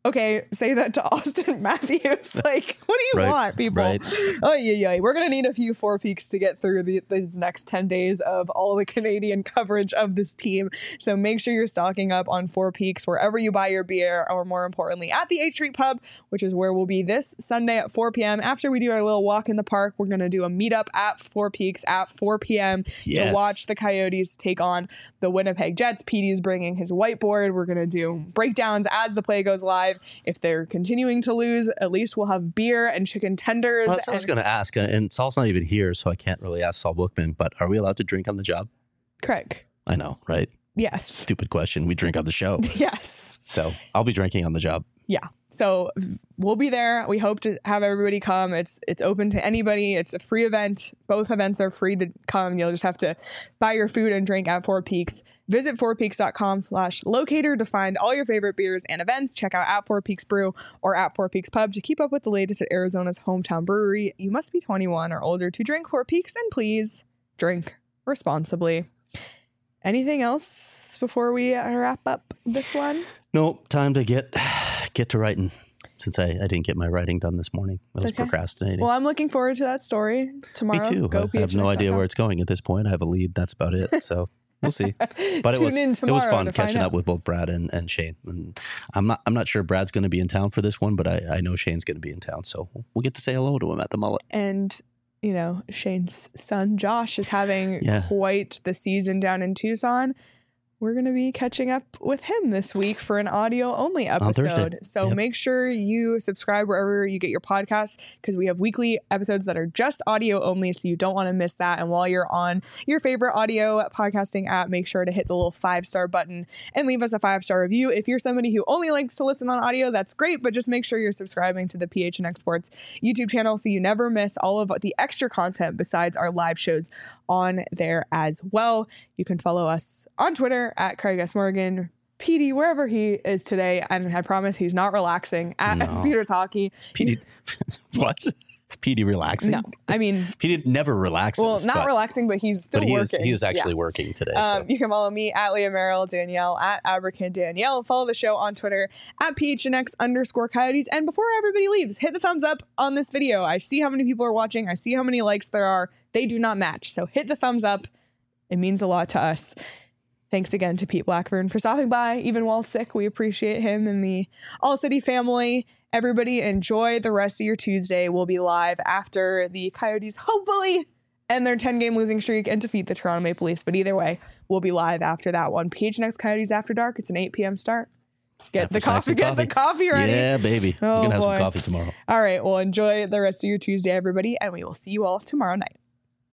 Okay, say that to Austin Matthews. Like, what do you Right, want, people? right. Oh, yeah, yeah. We're going to need a few Four Peaks to get through the, these next ten days of all the Canadian coverage of this team. So make sure you're stocking up on Four Peaks wherever you buy your beer, or more importantly, at the eighth Street Pub, which is where we'll be this Sunday at four p.m. After we do our little walk in the park, we're going to do a meetup at Four Peaks at four p.m. to Yes. watch the Coyotes take on the Winnipeg Jets. P D is bringing his whiteboard. We're going to do breakdowns as the play goes live. If they're continuing to lose, at least we'll have beer and chicken tenders. Well, that's what I was and- going to ask, and Saul's not even here, so I can't really ask Saul Bookman, but are we allowed to drink on the job? Craig. I know, right? Yes. Stupid question. We drink on the show. Yes. So I'll be drinking on the job. Yeah. So we'll be there. We hope to have everybody come. It's it's open to anybody. It's a free event. Both events are free to come. You'll just have to buy your food and drink at Four Peaks. Visit fourpeaks.com slash locator to find all your favorite beers and events. Check out at Four Peaks Brew or at Four Peaks Pub to keep up with the latest at Arizona's hometown brewery. You must be twenty-one or older to drink Four Peaks, and please drink responsibly. Anything else before we wrap up this one? No, time to get get to writing, since I, I didn't get my writing done this morning. I was okay. procrastinating. Well, I'm looking forward to that story tomorrow. Me too. Go I have no idea where it's going at this point. I have a lead. That's about it. So we'll see. But it Tune was in it was tomorrow fun to catching find up out. with both Brad and, and Shane. And I'm not I'm not sure Brad's going to be in town for this one, but I, I know Shane's going to be in town, so we'll get to say hello to him at the Mullet. And, you know, Shane's son, Josh, is having Yeah. quite the season down in Tucson. We're going to be catching up with him this week for an audio only On Thursday. episode. So Yep. make sure you subscribe wherever you get your podcasts, because we have weekly episodes that are just audio only. So you don't want to miss that. And while you're on your favorite audio podcasting app, make sure to hit the little five star button and leave us a five star review. If you're somebody who only likes to listen on audio, that's great. But just make sure you're subscribing to the P H N X Sports YouTube channel so you never miss all of the extra content besides our live shows on there as well. You can follow us on Twitter at Craig S. Morgan, P D, wherever he is today. And I promise he's not relaxing at No. Speeders Hockey. P D, what? P D relaxing? No, I mean, P D never relaxes. well, not but, relaxing, but he's still but he is working. he is actually Yeah. working today. Um, so. you can follow me at Leah Merrill, Danielle at Aberkin Danielle. Follow the show on Twitter at P H N X underscore Coyotes. And before everybody leaves, hit the thumbs up on this video. I see how many people are watching. I see how many likes there are. They do not match. So hit the thumbs up. It means a lot to us. Thanks again to Pete Blackburn for stopping by, even while sick. We appreciate him and the All City family. Everybody enjoy the rest of your Tuesday. We'll be live after the Coyotes hopefully end their ten-game losing streak and defeat the Toronto Maple Leafs. But either way, we'll be live after that one. P H N X Coyotes After Dark. It's an eight p.m. start. Get After the snacks coffee. and Get the coffee ready. Yeah, baby. Oh, We're going to have boy. some coffee tomorrow. All right. Well, enjoy the rest of your Tuesday, everybody, and we will see you all tomorrow night.